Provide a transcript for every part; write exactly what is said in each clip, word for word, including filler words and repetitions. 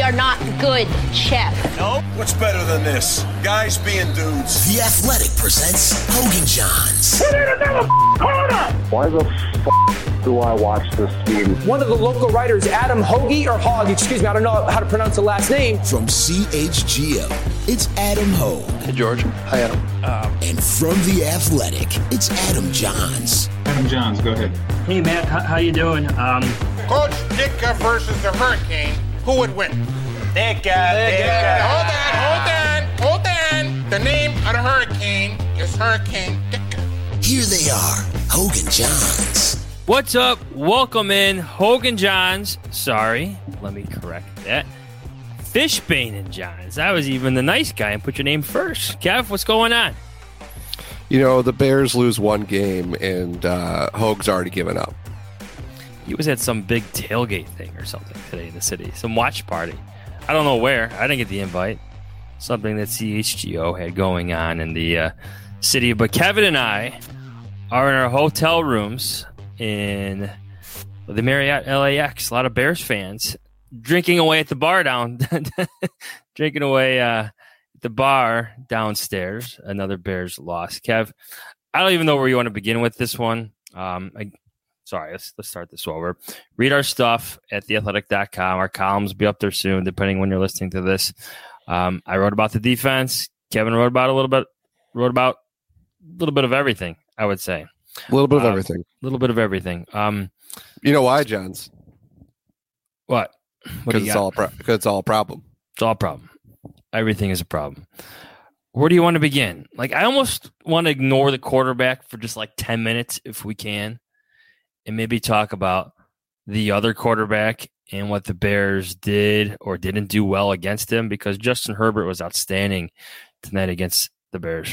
are not good, Chef. No? What's better than this? Guys being dudes. The Athletic presents Hoge and Jahns. We need another corner! Why the f*** do I watch this game? One of the local writers, Adam Hoge, or Hogg, excuse me, I don't know how to pronounce the last name. From C H G O, it's Adam Hoge. Hey, George. Hi, Adam. Um, and from The Athletic, it's Adam Jahns. Adam Jahns, go ahead. Hey, Matt, how, how you doing? Um, Coach Ditka versus the Hurricane. Who would win? Ditka. Ditka. Hold on, hold on, hold on. The name of the Hurricane is Hurricane Ditka. Here they are, Hoge and Jahns. What's up? Welcome in, Hoge and Jahns. Sorry, let me correct that. Fishbane and Jahns. I was even the nice guy and put your name first. Kev, what's going on? You know, the Bears lose one game, and uh, Hoge's already given up. He was at some big tailgate thing or something today in the city, some watch party. I don't know where. I didn't get the invite. Something that C H G O had going on in the uh, city. But Kevin and I are in our hotel rooms in the Marriott L A X. A lot of Bears fans drinking away at the bar down, drinking away uh, at the bar downstairs. Another Bears loss. Kev, I don't even know where you want to begin with this one. Um, I, sorry, let's let's start this over. Read our stuff at the athletic dot com. Our columns will be up there soon, depending when you're listening to this. Um, I wrote about the defense. Kevin wrote about a little bit. Wrote about a little bit of everything, I would say. A little bit of uh, everything. A little bit of everything. Um, you know why, Jahns? What? Because it's all pro- it's all a problem. It's all a problem. Everything is a problem. Where do you want to begin? Like, I almost want to ignore the quarterback for just like ten minutes if we can, and maybe talk about the other quarterback and what the Bears did or didn't do well against him, because Justin Herbert was outstanding tonight against the Bears.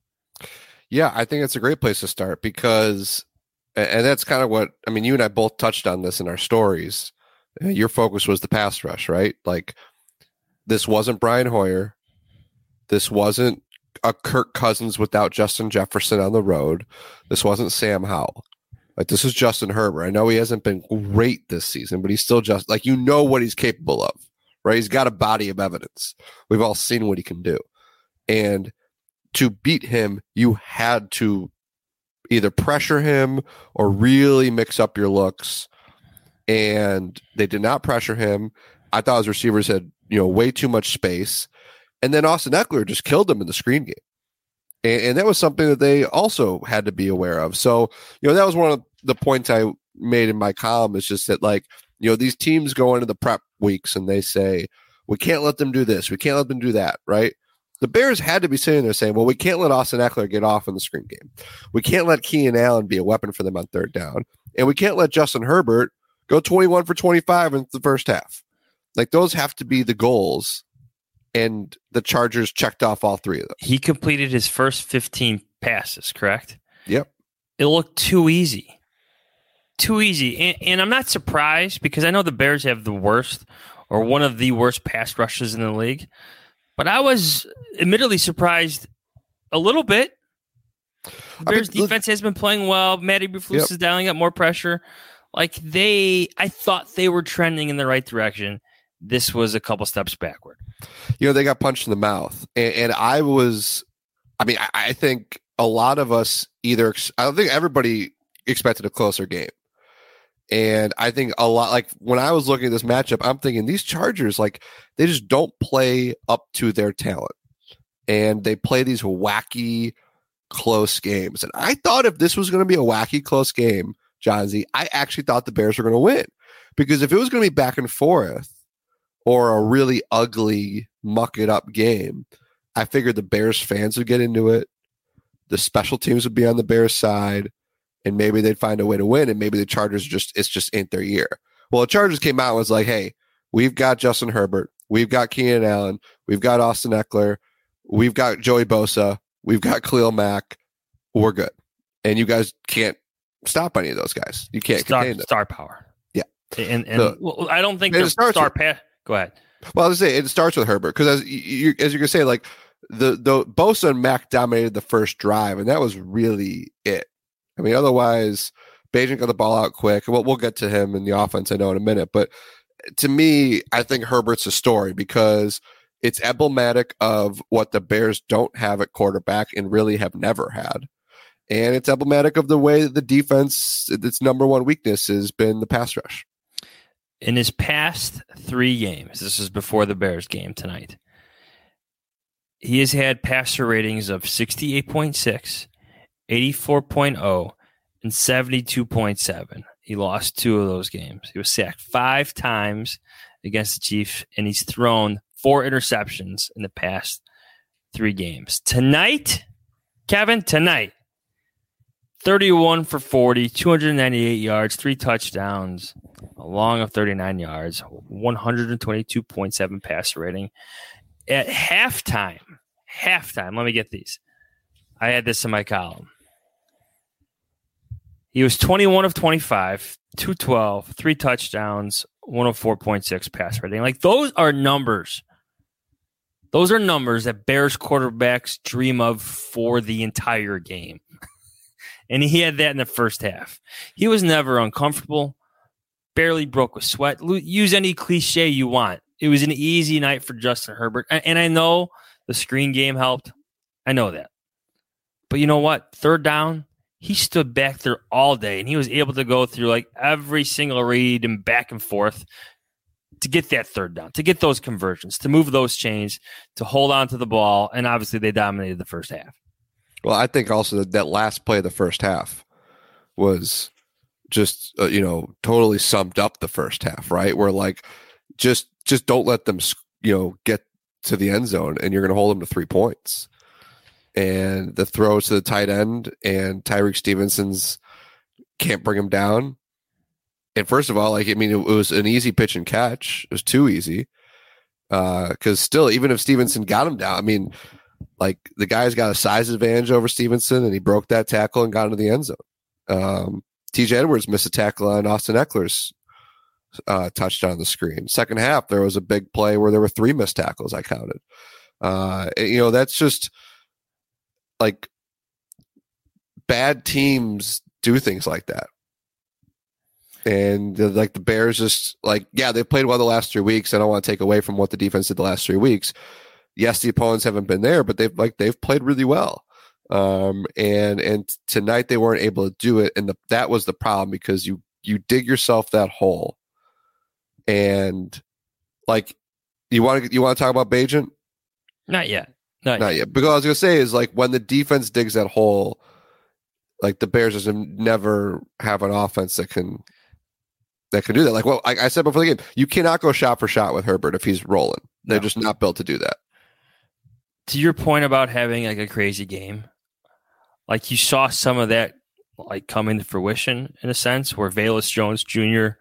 Yeah, I think it's a great place to start because, and that's kind of what, I mean, you and I both touched on this in our stories. Your focus was the pass rush, right? Like, this wasn't Brian Hoyer. This wasn't a Kirk Cousins without Justin Jefferson on the road. This wasn't Sam Howell. Like, this is Justin Herbert. I know he hasn't been great this season, but he's still just, like, you know what he's capable of, right? He's got a body of evidence. We've all seen what he can do. And to beat him, you had to either pressure him or really mix up your looks. And they did not pressure him. I thought his receivers had, you know, way too much space. And then Austin Ekeler just killed him in the screen game. And, and that was something that they also had to be aware of. So, you know, that was one of the points I made in my column, is just that, like, you know, these teams go into the prep weeks and they say, we can't let them do this. We can't let them do that, right? The Bears had to be sitting there saying, well, we can't let Austin Ekeler get off in the screen game. We can't let Keenan Allen be a weapon for them on third down. And we can't let Justin Herbert go twenty-one for twenty-five in the first half. Like, those have to be the goals. And the Chargers checked off all three of them. He completed his first fifteen passes, correct? Yep. It looked too easy. Too easy. And, and I'm not surprised, because I know the Bears have the worst, or one of the worst pass rushes in the league. But I was admittedly surprised a little bit. The Bears I mean, defense has been playing well. Matty Eberflus yep. is dialing up more pressure. Like, they, I thought they were trending in the right direction. This was a couple steps backward. You know, they got punched in the mouth. And, and I was, I mean, I, I think a lot of us either, I don't think everybody expected a closer game. And I think a lot, like, when I was looking at this matchup, I'm thinking these Chargers, like, they just don't play up to their talent. And they play these wacky, close games. And I thought if this was going to be a wacky, close game, Johnsy, I actually thought the Bears were going to win. Because if it was going to be back and forth or a really ugly, muck-it-up game, I figured the Bears fans would get into it. The special teams would be on the Bears side. And maybe they'd find a way to win, and maybe the Chargers just, it's just ain't their year. Well, the Chargers came out and was like, hey, we've got Justin Herbert, we've got Keenan Allen, we've got Austin Ekeler, we've got Joey Bosa, we've got Khalil Mack, we're good. And you guys can't stop any of those guys. You can't star, contain them. Star power. Yeah. And, and so, well, I don't think the star pass. Go ahead. Well, I was say it starts with Herbert, because as you as you can say, like, the, the Bosa and Mack dominated the first drive, and that was really it. I mean, otherwise, Bagent got the ball out quick. Well, we'll get to him in the offense, I know, in a minute. But to me, I think Herbert's a story because it's emblematic of what the Bears don't have at quarterback and really have never had. And it's emblematic of the way the defense, its number one weakness has been the pass rush. In his past three games, this is before the Bears game tonight, he has had passer ratings of sixty-eight point six, eighty-four point oh, and seventy-two point seven. He lost two of those games. He was sacked five times against the Chiefs, and he's thrown four interceptions in the past three games. Tonight, Kevin, tonight, thirty-one for forty, two hundred ninety-eight yards, three touchdowns, a long of thirty-nine yards, one hundred twenty-two point seven passer rating. At halftime, halftime, let me get these. I had this in my column. He was twenty-one of twenty-five, two twelve, three touchdowns, one oh four point six passer rating. Like, those are numbers. Those are numbers that Bears quarterbacks dream of for the entire game. And he had that in the first half. He was never uncomfortable, barely broke with sweat. Use any cliche you want. It was an easy night for Justin Herbert. And I know the screen game helped. I know that. But you know what? Third down, he stood back there all day, and he was able to go through like every single read and back and forth to get that third down, to get those conversions, to move those chains, to hold on to the ball. And obviously they dominated the first half. Well, I think also that, that last play of the first half was just, uh, you know, totally summed up the first half, right? Where like, just just don't let them, you know, get to the end zone, and you're going to hold them to three points. And the throws to the tight end, and Tyreek Stevenson's can't bring him down. And first of all, like, I mean, it, it was an easy pitch and catch. It was too easy. Because uh, still, even if Stevenson got him down, I mean, like, the guy's got a size advantage over Stevenson, and he broke that tackle and got into the end zone. Um, T J Edwards missed a tackle on Austin Eckler's uh, touchdown on the screen. Second half, there was a big play where there were three missed tackles, I counted. Uh, you know, that's just like bad teams do things like that. And uh, like the Bears just like, yeah, they played well the last three weeks. I don't want to take away from what the defense did the last three weeks. Yes, the opponents haven't been there, but they've like they've played really well. Um, and and tonight they weren't able to do it, and the, that was the problem, because you you dig yourself that hole. And like, you want to you want to talk about Bagent? Not yet. Not, Not yet. yet. Because I was gonna say is like when the defense digs that hole, like the Bears just never have an offense that can that can do that. Like, well, I, I said before the game, you cannot go shot for shot with Herbert if he's rolling. They're no. just not built to do that. To your point about having like a crazy game, like you saw some of that like come into fruition in a sense, where Velus Jones Junior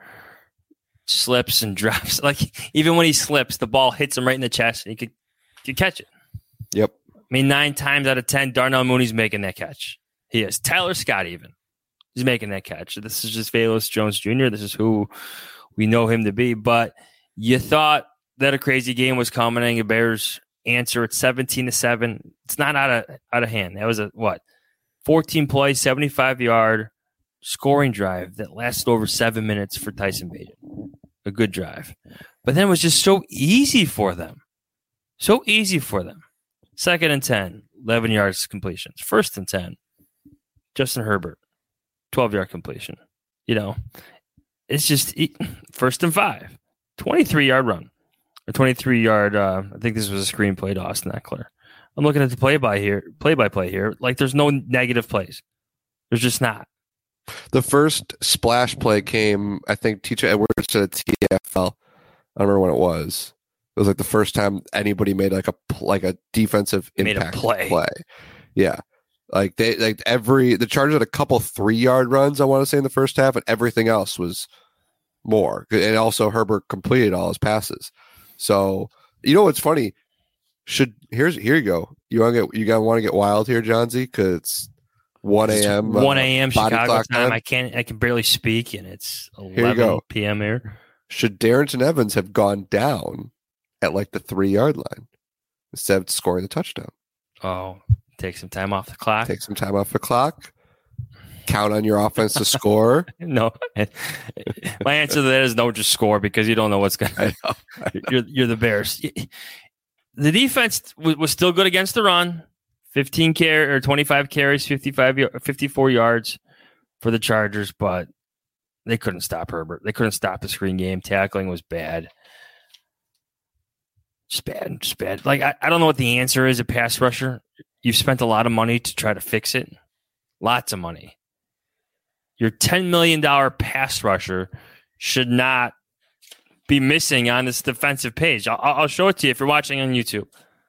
slips and drops. Like, even when he slips, the ball hits him right in the chest, and he could, could catch it. Yep. I mean, nine times out of ten, Darnell Mooney's making that catch. He is. Tyler Scott even. He's making that catch. This is just Velus Jones Junior This is who we know him to be. But you thought that a crazy game was coming, and the Bears answer at seventeen to seven. It's not out of out of hand. That was a what? fourteen play, seventy-five yard scoring drive that lasted over seven minutes for Tyson Bagent. A good drive. But then it was just so easy for them. So easy for them. Second and ten, eleven yards completions. First and ten, Justin Herbert, twelve yard completion. You know, it's just first and five, twenty-three yard run. A twenty-three yard, uh, I think this was a screenplay to Austin Eckler. I'm looking at the play by here, play by play here. Like, there's no negative plays. There's just not. The first splash play came, I think, T J Edwards to the T F L. I don't remember when it was. It was like the first time anybody made like a like a defensive made impact a play. play. Yeah, like they like every the Chargers had a couple three yard runs, I want to say, in the first half, and everything else was more. And also Herbert completed all his passes. So, you know what's funny? Should here's here you go. You want to get you got want to get wild here, John Z, because it's one a.m. one a.m. Uh, Chicago time. time. I can't. I can barely speak, and it's eleven p.m. here. Should Darrington Evans have gone down at like the three yard line instead of scoring the touchdown? Oh, take some time off the clock. Take some time off the clock. count on your offense to score? No. My answer to that is no, just score because you don't know what's going to happen. You're, you're the Bears. The defense was, was still good against the run. fifteen carry or twenty-five carries, fifty-five, fifty-four yards for the Chargers, but they couldn't stop Herbert. They couldn't stop the screen game. Tackling was bad. Just bad. Just bad. Like, I, I don't know what the answer is, a pass rusher. You've spent a lot of money to try to fix it. Lots of money. Your ten million dollars pass rusher should not be missing on this defensive page. I'll, I'll show it to you if you're watching on YouTube.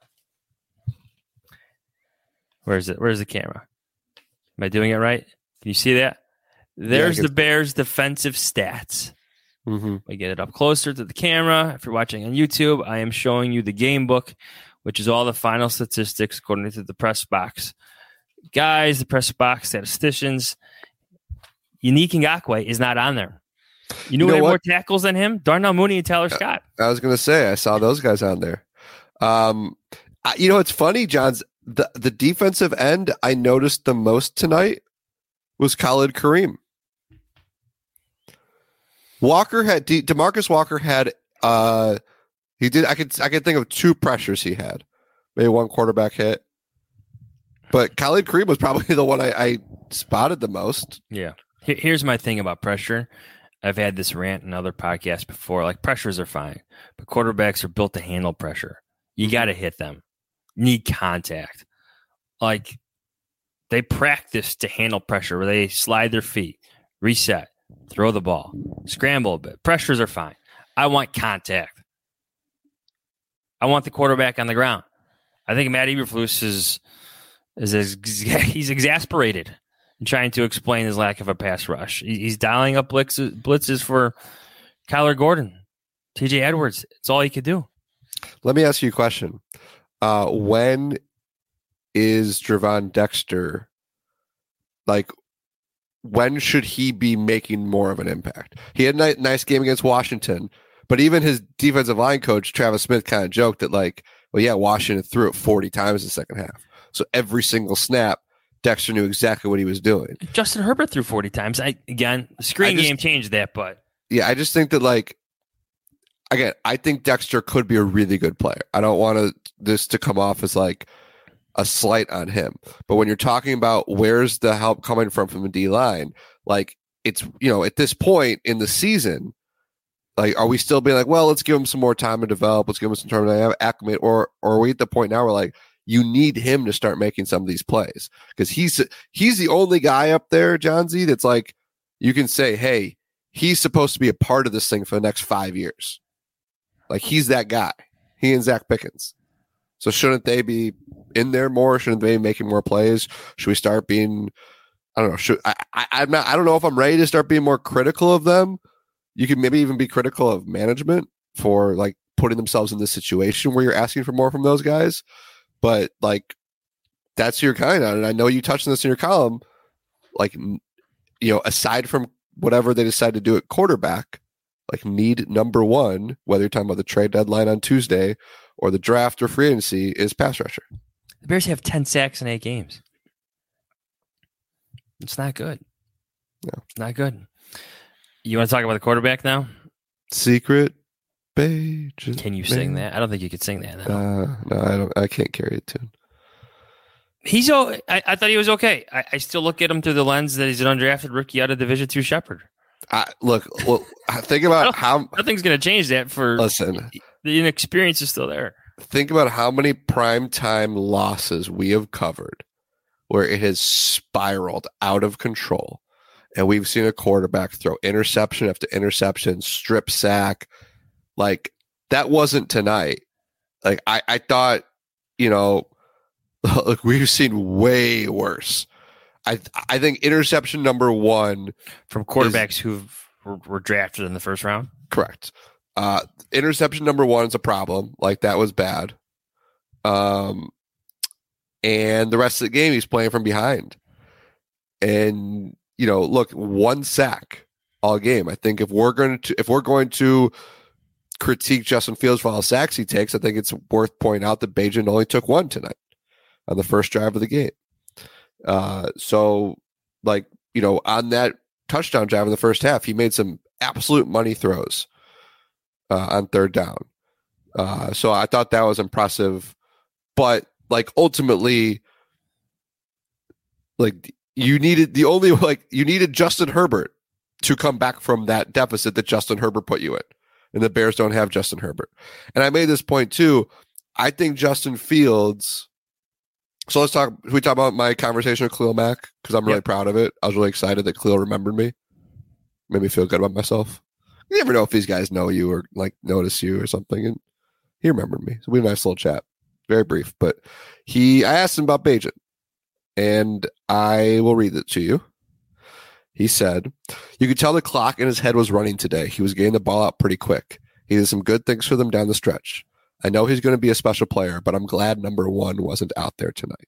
Where is it? Where's the camera? Am I doing it right? Can you see that? There's yeah, the Bears' defensive stats. Mm-hmm. We get it up closer to the camera. If you're watching on YouTube, I am showing you the game book, which is all the final statistics according to the press box guys, the press box statisticians. Yannick Ngakoue is not on there. You know, you know who had more tackles than him? Darnell Mooney and Tyler Scott. I was going to say, I saw those guys on there. Um, I, you know, it's funny, Johns. The the defensive end I noticed the most tonight was Khalid Kareem. Walker had De- DeMarcus Walker had uh he did I could I could think of two pressures he had, maybe one quarterback hit, but Khalid Kareem was probably the one I, I spotted the most. Yeah. Here's my thing about pressure. I've had this rant in other podcasts before. Like, pressures are fine, but quarterbacks are built to handle pressure. You got to hit them. You need contact. Like, they practice to handle pressure where they slide their feet, reset, throw the ball, scramble a bit. Pressures are fine. I want contact. I want the quarterback on the ground. I think Matt Eberflus is is ex- he's exasperated in trying to explain his lack of a pass rush. He's dialing up blitzes, blitzes for Kyler Gordon, T J Edwards. It's all he could do. Let me ask you a question. Uh, when is Gervon Dexter, like, when should he be making more of an impact? He had a nice game against Washington, but even his defensive line coach, Travis Smith, kind of joked that, like, well, yeah, Washington threw it forty times in the second half. So every single snap, Dexter knew exactly what he was doing. Justin Herbert threw forty times. I Again, the screen just, game changed that, but. Yeah, I just think that, like, again, I think Dexter could be a really good player. I don't want to, this to come off as, like, a slight on him. But when you're talking about where's the help coming from from the D-line, like, it's, you know, at this point in the season, like, are we still being like, well, let's give him some more time to develop, let's give him some time to acclimate, or, or are we at the point now where, like, you need him to start making some of these plays? Because he's he's the only guy up there, John Z, that's like, you can say, hey, he's supposed to be a part of this thing for the next five years. Like, he's that guy. He and Zach Pickens. So shouldn't they be in there more? Shouldn't they be making more plays? Should we start being, I don't know. Should I, I I'm not I don't know if I'm ready to start being more critical of them. You could maybe even be critical of management for, like, putting themselves in this situation where you're asking for more from those guys. But, like, that's your kind of, and I know you touched on this in your column, like, you know, aside from whatever they decide to do at quarterback, like, need number one, whether you're talking about the trade deadline on Tuesday or the draft or free agency, is pass rusher. The Bears have ten sacks in eight games. It's not good. No. It's not good. You want to talk about the quarterback now? Secret pages. Can you sing that? I don't think you could sing that. No, uh, no I don't. I can't carry a tune. He's. Oh, I, I thought he was okay. I, I still look at him through the lens that he's an undrafted rookie out of Division Two Shepherd. I, look, well, think about how nothing's going to change that. For listen, the inexperience is still there. Think about how many primetime losses we have covered where it has spiraled out of control. And we've seen a quarterback throw interception after interception, strip sack. Like, that wasn't tonight. Like, I, I thought, you know, look, we've seen way worse. I I think interception number one from quarterbacks who were, were drafted in the first round. Correct. Uh, interception number one is a problem. Like, that was bad. Um, and the rest of the game, he's playing from behind. And, you know, look, one sack all game. I think if we're going to if we're going to critique Justin Fields for all the sacks he takes, I think it's worth pointing out that Bagent only took one tonight on the first drive of the game. Uh, so, like, you know, on that touchdown drive in the first half, he made some absolute money throws uh, on third down. Uh, so I thought that was impressive. But like ultimately, like you needed the only like you needed Justin Herbert to come back from that deficit that Justin Herbert put you in. And the Bears don't have Justin Herbert. And I made this point too. I think Justin Fields. So let's talk. We talk about my conversation with Khalil Mack because I'm really yep. proud of it. I was really excited that Khalil remembered me. Made me feel good about myself. You never know if these guys know you or like notice you or something. And he remembered me. So we had a nice little chat. Very brief, but he. I asked him about Bagent, and I will read it to you. He said, "You could tell the clock in his head was running today. He was getting the ball out pretty quick. He did some good things for them down the stretch. I know he's going to be a special player, but I'm glad number one wasn't out there tonight."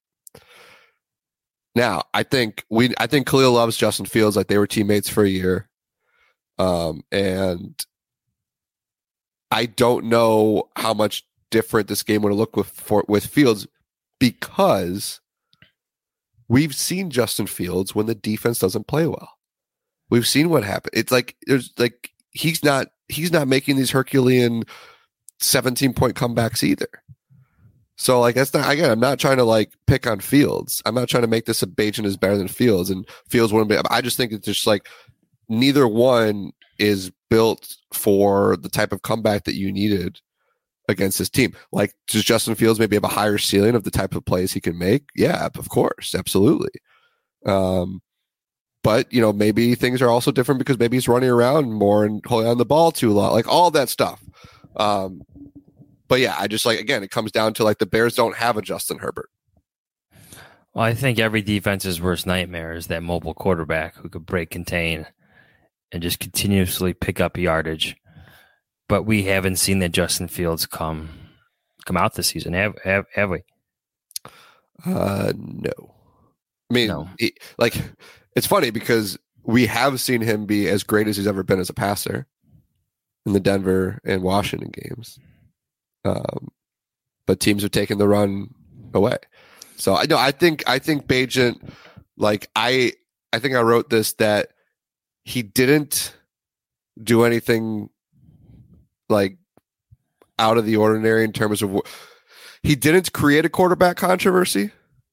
Now, I think we, I think Khalil loves Justin Fields like they were teammates for a year, um, and I don't know how much different this game would have looked with for, with Fields because we've seen Justin Fields when the defense doesn't play well. We've seen what happened. It's like there's like he's not he's not making these Herculean seventeen point comebacks either. So like that's not again. I'm not trying to like pick on Fields. I'm not trying to make this a Bagent is better than Fields and Fields wouldn't be. I just think it's just like neither one is built for the type of comeback that you needed against this team. Like, does Justin Fields maybe have a higher ceiling of the type of plays he can make? Yeah, of course, absolutely. Um, but you know, maybe things are also different because maybe he's running around more and holding on the ball too long, like all that stuff. Um, but yeah, I just like again, it comes down to like the Bears don't have a Justin Herbert. Well, I think every defense's worst nightmare is that mobile quarterback who could break contain and just continuously pick up yardage. But we haven't seen that Justin Fields come come out this season, have have, have we? Uh, no. I mean, no. He, like, it's funny because we have seen him be as great as he's ever been as a passer in the Denver and Washington games. Um, but teams have taken the run away. So I know I think I think Bagent, like I I think I wrote this that he didn't do anything like out of the ordinary in terms of he didn't create a quarterback controversy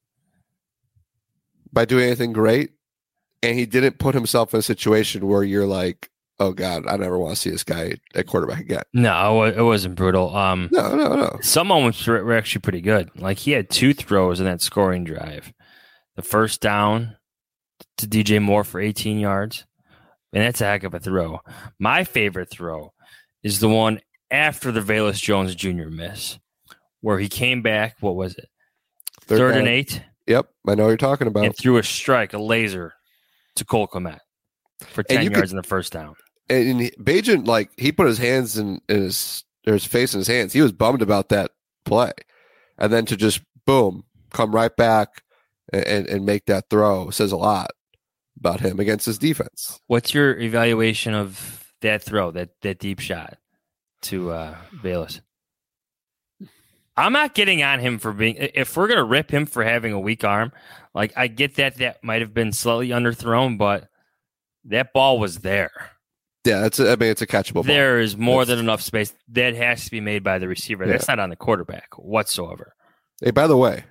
by doing anything great, and he didn't put himself in a situation where you're like, oh God, I never want to see this guy at quarterback again. No, it wasn't brutal. Um, no, no, no. Some moments were actually pretty good. Like he had two throws in that scoring drive. The first down to D J Moore for eighteen yards, and that's a heck of a throw. My favorite throw is the one after the Velus Jones Junior miss, where he came back, what was it? Third, Third and eight? Yep, I know what you're talking about. And threw a strike, a laser, to Cole Kmet for ten yards could, in the first down. And Bagent, like, he put his hands in, in his, or his face in his hands. He was bummed about that play. And then to just, boom, come right back and, and make that throw says a lot about him against his defense. What's your evaluation of that throw, that that deep shot to uh, Velus? I'm not getting on him for being. If we're gonna rip him for having a weak arm, like I get that that might have been slightly underthrown, but that ball was there. Yeah, that's. A, I mean, it's a catchable ball. There is more that's, than enough space that has to be made by the receiver. Yeah. That's not on the quarterback whatsoever. Hey, by the way,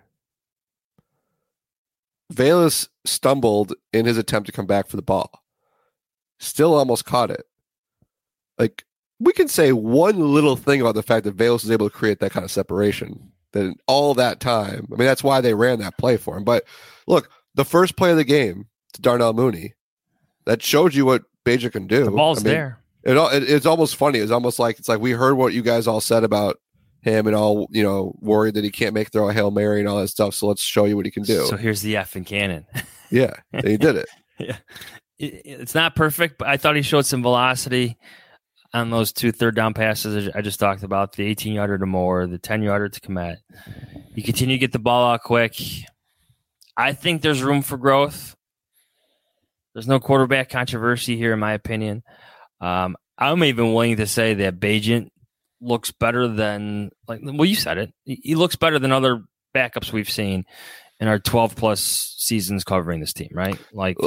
Velus stumbled in his attempt to come back for the ball. Still almost caught it. Like, we can say one little thing about the fact that Velus was able to create that kind of separation. That in all that time, I mean, that's why they ran that play for him. But look, the first play of the game to Darnell Mooney, that showed you what Bagent can do. The ball's I mean, there. It, it, it's almost funny. It's almost like it's like we heard what you guys all said about him and all, you know, worried that he can't make throw a Hail Mary and all that stuff. So let's show you what he can do. So here's the F in cannon. Yeah, and he did it. Yeah, it, it's not perfect, but I thought he showed some velocity on those two third down passes I just talked about, the eighteen yarder to Moore, the ten yarder to Kmet. You continue to get the ball out quick. I think there's room for growth. There's no quarterback controversy here, in my opinion. Um, I'm even willing to say that Bagent looks better than, like, well, you said it. He looks better than other backups we've seen in our twelve plus seasons covering this team, right? Like,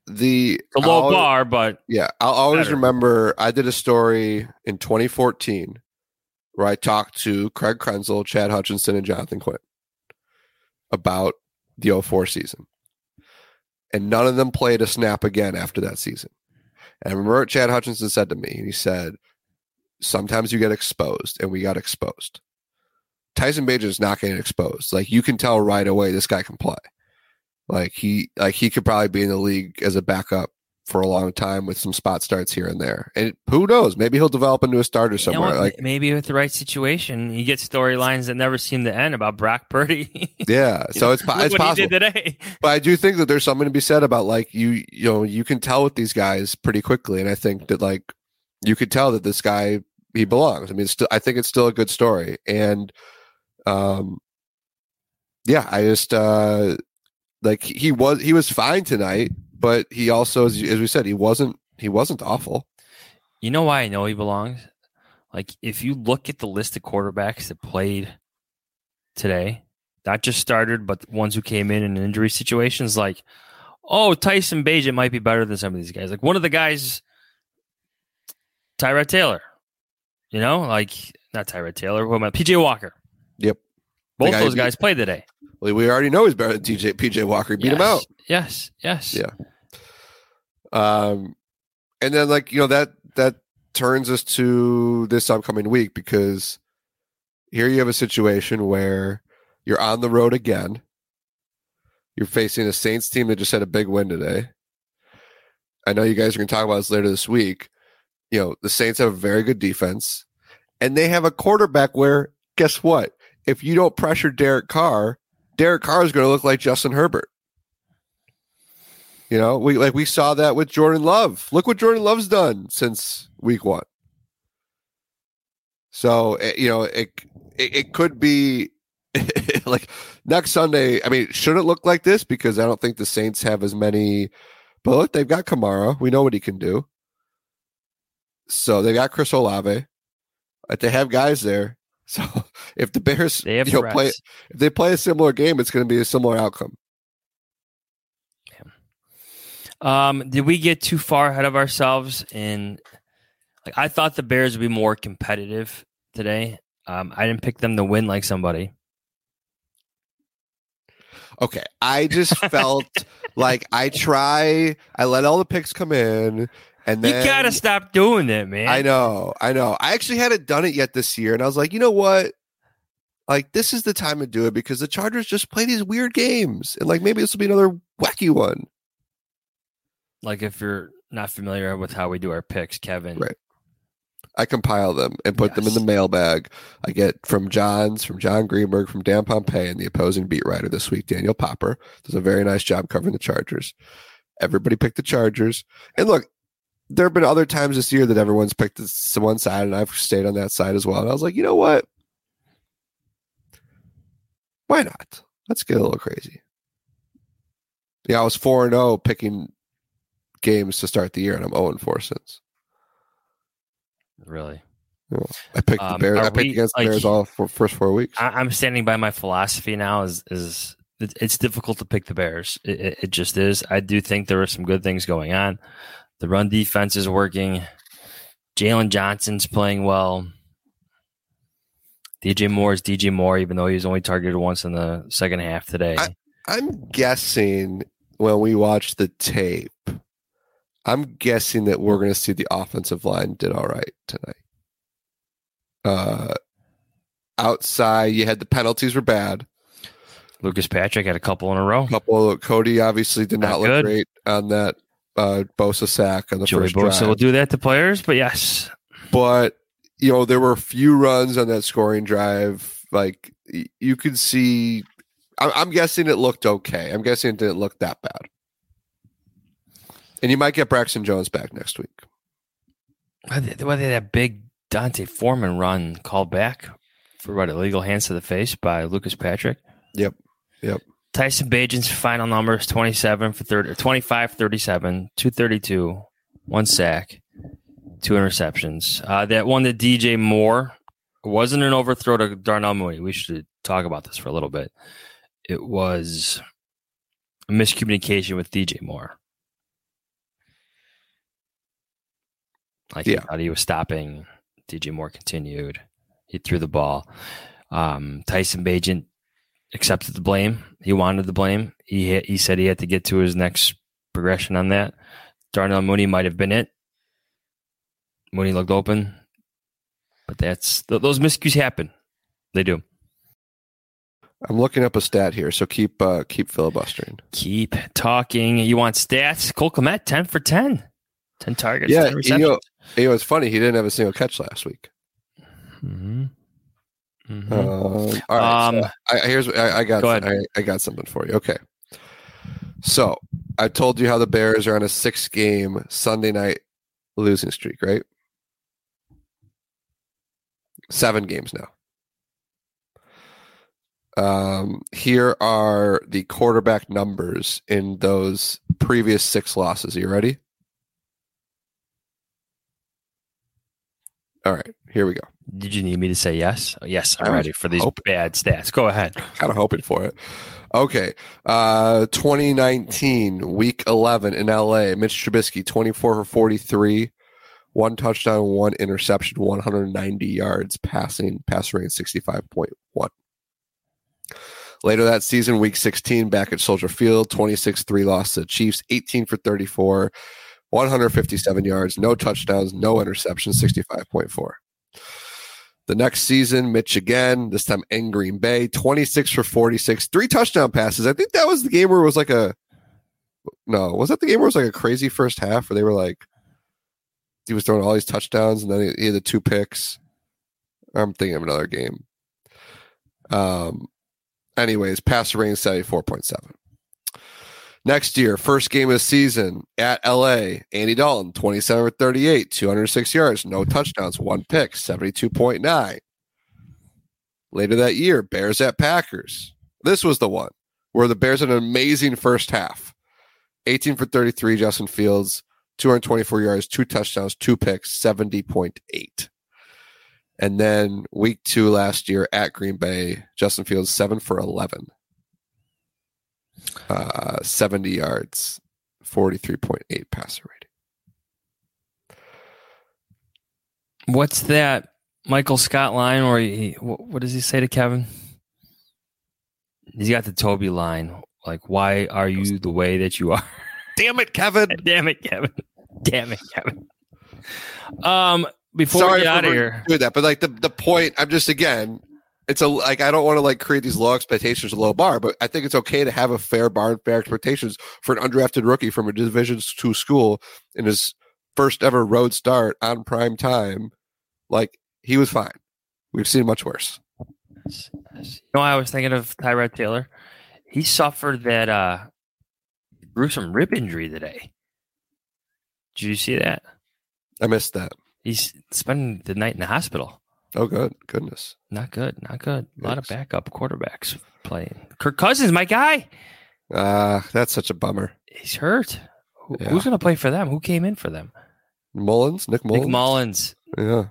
the It's a low I'll, bar, but yeah, I'll always better. remember I did a story in twenty fourteen where I talked to Craig Krenzel, Chad Hutchinson, and Jonathan Quinn about the oh four season. And none of them played a snap again after that season. And I remember what Chad Hutchinson said to me. He said, sometimes you get exposed, and we got exposed. Tyson Bagent is not getting exposed. Like, you can tell right away this guy can play. Like he like he could probably be in the league as a backup for a long time with some spot starts here and there. And who knows? Maybe he'll develop into a starter somewhere. You know, like maybe with the right situation, you get storylines that never seem to end about Brock Purdy. Yeah, so it's, it's what possible. He did today. But I do think that there's something to be said about like you you know you can tell with these guys pretty quickly, and I think that like you could tell that this guy he belongs. I mean, it's still, I think it's still a good story, and um, yeah, I just uh. Like he was, he was fine tonight, but he also, as, as we said, he wasn't, he wasn't awful. You know why I know he belongs? Like if you look at the list of quarterbacks that played today, not just started, but ones who came in in injury situations, like, oh, Tyson Bagent might be better than some of these guys. Like one of the guys, Tyrod Taylor, you know, like not Tyrod Taylor, what am I? P J Walker. Yep, both those guys played today. Well, we already know he's better than T J P J Walker. He beat yes, him out. Yes, yes. Yeah. Um, and then like, you know, that that turns us to this upcoming week, because here you have a situation where you're on the road again. You're facing a Saints team that just had a big win today. I know you guys are going to talk about this later this week. You know, the Saints have a very good defense, and they have a quarterback where, guess what? If you don't pressure Derek Carr, Derek Carr is going to look like Justin Herbert. You know, we like we saw that with Jordan Love. Look what Jordan Love's done since week one. So, you know, it it, it could be like next Sunday. I mean, should it look like this? Because I don't think the Saints have as many. But look, they've got Kamara. We know what he can do. So they got Chris Olave. Like, they have guys there. So if the Bears they have you know, play, if they play a similar game, it's going to be a similar outcome. Um, did we get too far ahead of ourselves? In like, I thought the Bears would be more competitive today. Um, I didn't pick them to win like somebody. Okay, I just felt like I try. I let all the picks come in. And then, you gotta stop doing that, man. I know, I know. I actually hadn't done it yet this year, and I was like, you know what? Like, this is the time to do it, because the Chargers just play these weird games, and like maybe this will be another wacky one. Like if you're not familiar with how we do our picks, Kevin, right? I compile them and put yes. them in the mailbag. I get from John's, from John Greenberg, from Dan Pompei, and the opposing beat writer this week, Daniel Popper, does a very nice job covering the Chargers. Everybody picked the Chargers, and look. There have been other times this year that everyone's picked this one side, and I've stayed on that side as well. And I was like, you know what? Why not? Let's get a little crazy. Yeah, I was four and oh picking games to start the year, and I'm oh and four since. Really? You know, I picked um, the Bears. I picked we, against the like, Bears all for first four weeks. I, I'm standing by my philosophy now. Is is it, it's difficult to pick the Bears. It, it, it just is. I do think there are some good things going on. The run defense is working. Jalen Johnson's playing well. D J Moore is D J Moore, even though he was only targeted once in the second half today. I, I'm guessing when we watch the tape, I'm guessing that we're going to see the offensive line did all right tonight. Uh, outside, you had the penalties were bad. Lucas Patrick had a couple in a row. A couple. Cody obviously did not, not look good. great on that. Uh, Bosa sack on the Joey first Bosa drive. will do that to players, but yes. But, you know, there were a few runs on that scoring drive. Like, you could see, I'm, I'm guessing it looked okay. I'm guessing it didn't look that bad. And you might get Braxton Jones back next week. Whether well, that big Dante Foreman run called back for what, illegal hands to the face by Lucas Patrick? Yep, yep. Tyson Bagent's final numbers twenty-seven for thirty, twenty-five for thirty-seven, two thirty-two, one sack, two interceptions. Uh, that one that D J Moore wasn't an overthrow to Darnell Mooney. We should talk about this for a little bit. It was a miscommunication with D J Moore. Like Yeah. he thought he was stopping. D J Moore continued. He threw the ball. Um, Tyson Bagent accepted the blame. He wanted the blame. He he said he had to get to his next progression on that. Darnell Mooney might have been it. Mooney looked open, but that's th- those miscues happen. They do. I'm looking up a stat here, so keep uh, keep filibustering. Keep talking. You want stats? Cole Kmet, ten for ten. ten targets, Yeah, ten receptions. you know, you know, it's funny. He didn't have a single catch last week. Mm-hmm. Mm-hmm. Um, all right. Um, so I, here's I, I got. Go ahead. I, I got something for you. Okay. So I told you how the Bears are on a six-game Sunday night losing streak, right? Seven games now. Um, here are the quarterback numbers in those previous six losses. Are you ready? All right, here we go. Did you need me to say yes? Oh, yes, I'm I was ready for these hoping. bad stats. Go ahead. Kind of hoping for it. Okay. Uh, twenty nineteen, week eleven in L A. Mitch Trubisky, twenty-four for forty-three, one touchdown, one interception, one hundred ninety yards, passing, pass rating sixty-five point one. Later that season, week sixteen, back at Soldier Field, twenty-six three loss to the Chiefs, eighteen for thirty-four, one hundred fifty-seven yards, no touchdowns, no interceptions, sixty-five point four. The next season, Mitch again, this time in Green Bay, twenty-six for forty-six, three touchdown passes. I think that was the game where it was like a, no, was that the game where it was like a crazy first half where they were like, he was throwing all these touchdowns and then he had the two picks. I'm thinking of another game. Um, anyways, passer rating seventy-four point seven. Next year, first game of the season at L A, Andy Dalton, twenty-seven for thirty-eight, two hundred six yards, no touchdowns, one pick, seventy-two point nine. Later that year, Bears at Packers. This was the one where the Bears had an amazing first half. eighteen for thirty-three, Justin Fields, two hundred twenty-four yards, two touchdowns, two picks, seventy point eight. And then week two last year at Green Bay, Justin Fields, seven for eleven. Uh, seventy yards, forty-three point eight passer rating. What's that Michael Scott line where he, what, what does he say to Kevin? He's got the Toby line. Like, why are you the way that you are? Damn it, Kevin. Damn it, Kevin. Damn it, Kevin. Um, before Sorry we get out of for here. doing that, but like the, the point, I'm just, again, it's a, like, I don't want to like create these low expectations, a low bar, but I think it's okay to have a fair bar and fair expectations for an undrafted rookie from a Division two school in his first ever road start on prime time. Like, he was fine. We've seen much worse. You know, I was thinking of Tyrod Taylor. He suffered that uh, gruesome rib injury today. Did you see that? I missed that. He's spending the night in the hospital. Oh, good. Goodness. Not good. Not good. A lot of Yes. backup quarterbacks playing. Kirk Cousins, my guy. Ah, uh, that's such a bummer. He's hurt. Who, Yeah. Who's going to play for them? Who came in for them? Mullins? Nick Mullins? Nick Mullins. Yeah.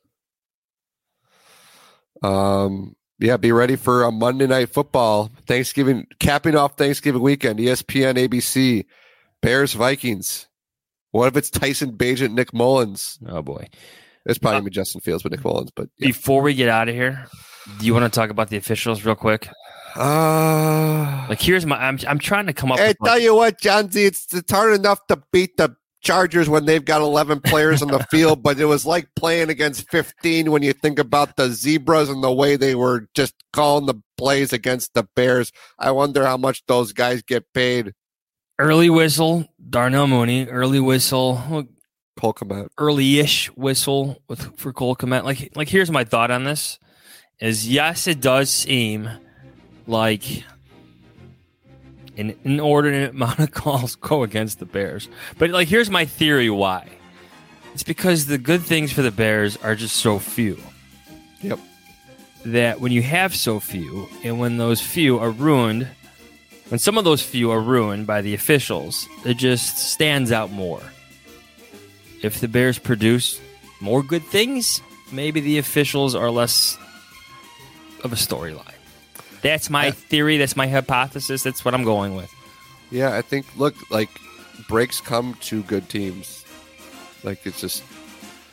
Um. Yeah, be ready for a Monday Night Football. Thanksgiving, capping off Thanksgiving weekend, E S P N, A B C, Bears, Vikings. What if it's Tyson Bagent, Nick Mullins? Oh, boy. It's probably going to be Justin Fields, but Nick Mullins. But yeah. Before we get out of here, do you want to talk about the officials real quick? Uh, Like, here's my, I'm, I'm trying to come up I with tell like, you what, John Z, it's, it's hard enough to beat the Chargers when they've got eleven players on the field, but it was like playing against fifteen when you think about the Zebras and the way they were just calling the plays against the Bears. I wonder how much those guys get paid. early whistle, Darnell Mooney, early whistle, Cole Kmet. early-ish whistle with for Cole Kmet. Like, like here's my thought on this: is yes, it does seem like an inordinate amount of calls go against the Bears, but like here's my theory why. It's because the good things for the Bears are just so few. Yep. That when you have so few, and when those few are ruined, when some of those few are ruined by the officials, it just stands out more. If the Bears produce more good things, maybe the officials are less of a storyline. That's my Yeah. theory. That's my hypothesis. That's what I'm going with. Yeah, I think, look, like, breaks come to good teams. Like, it's just,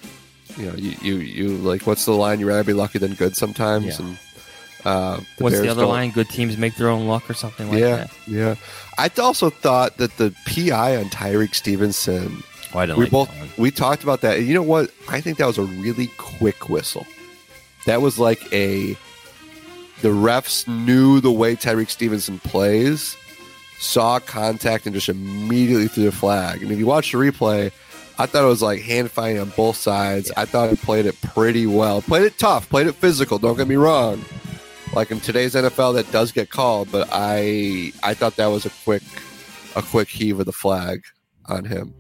you know, you, you, you like, what's the line? You rather be lucky than good sometimes. Yeah. And uh, the what's Bears the other don't- line? Good teams make their own luck or something like yeah, that. yeah. I also thought that the P I on Tyreek Stevenson. Oh, I didn't we like both that one. we talked about that. And you know what? I think that was a really quick whistle. That was like a the refs knew the way Tyreek Stevenson plays, saw contact, and just immediately threw the flag. And if you watch the replay, I thought it was like hand fighting on both sides. Yeah. I thought he played it pretty well. Played it tough, played it physical, don't get me wrong. Like in today's N F L that does get called, but I I thought that was a quick a quick heave of the flag on him.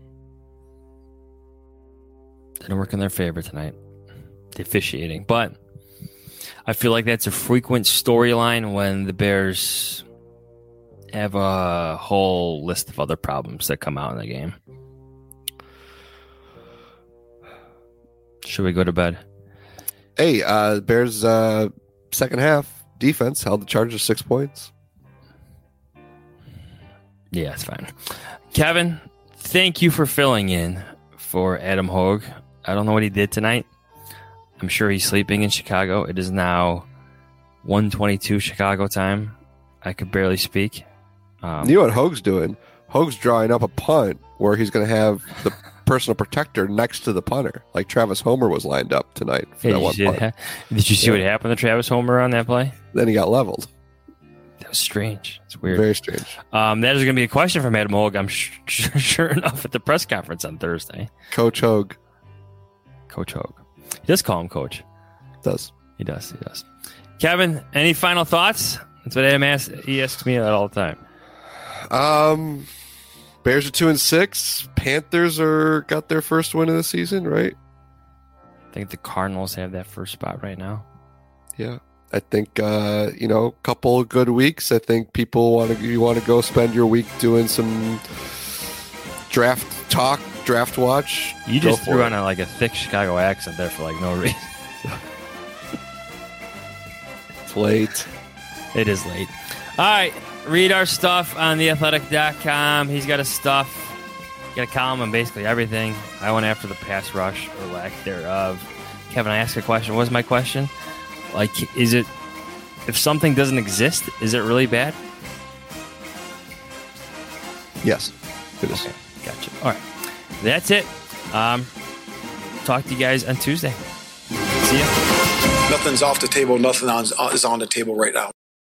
Didn't work in their favor tonight, the officiating. But I feel like that's a frequent storyline when the Bears have a whole list of other problems that come out in the game. Should we go to bed? Hey, uh, Bears uh, second half defense held the Chargers six points. Yeah, it's fine. Kevin, thank you for filling in for Adam Hogue. I don't know what he did tonight. I'm sure he's sleeping in Chicago. It is now one twenty-two Chicago time. I could barely speak. Um, You know what Hogue's doing? Hogue's drawing up a punt where he's going to have the personal protector next to the punter, like Travis Homer was lined up tonight for Hey, that did, one you see, punt. that? Did you see Yeah. what happened to Travis Homer on that play? Then he got leveled. That was strange. It's weird. Very strange. Um, that is going to be a question from Adam Hogue, I'm sh- sh- sure enough, at the press conference on Thursday. Coach Hogue Coach Hogue. He does call him Coach. does. He does. He does. Kevin, any final thoughts? That's what Adam asks. He asks me that all the time. Um, Bears are two and six. Panthers are got their first win of the season, right? I think the Cardinals have that first spot right now. Yeah. I think uh, you know, a couple good weeks. I think people want to you want to go spend your week doing some draft talk, draft watch. You Go just for threw it. on a, like a thick Chicago accent there for like no reason. It's late. It is late. All right. Read our stuff on the athletic dot com. He's got his stuff. Got a column on basically everything. I went after the pass rush or lack thereof. Kevin, I asked a question. What was my question? Like, is it, if something doesn't exist, is it really bad? Yes, it is. Okay, gotcha. All right. That's it. Um, talk to you guys on Tuesday. See ya. Nothing's off the table. Nothing on, is on the table right now.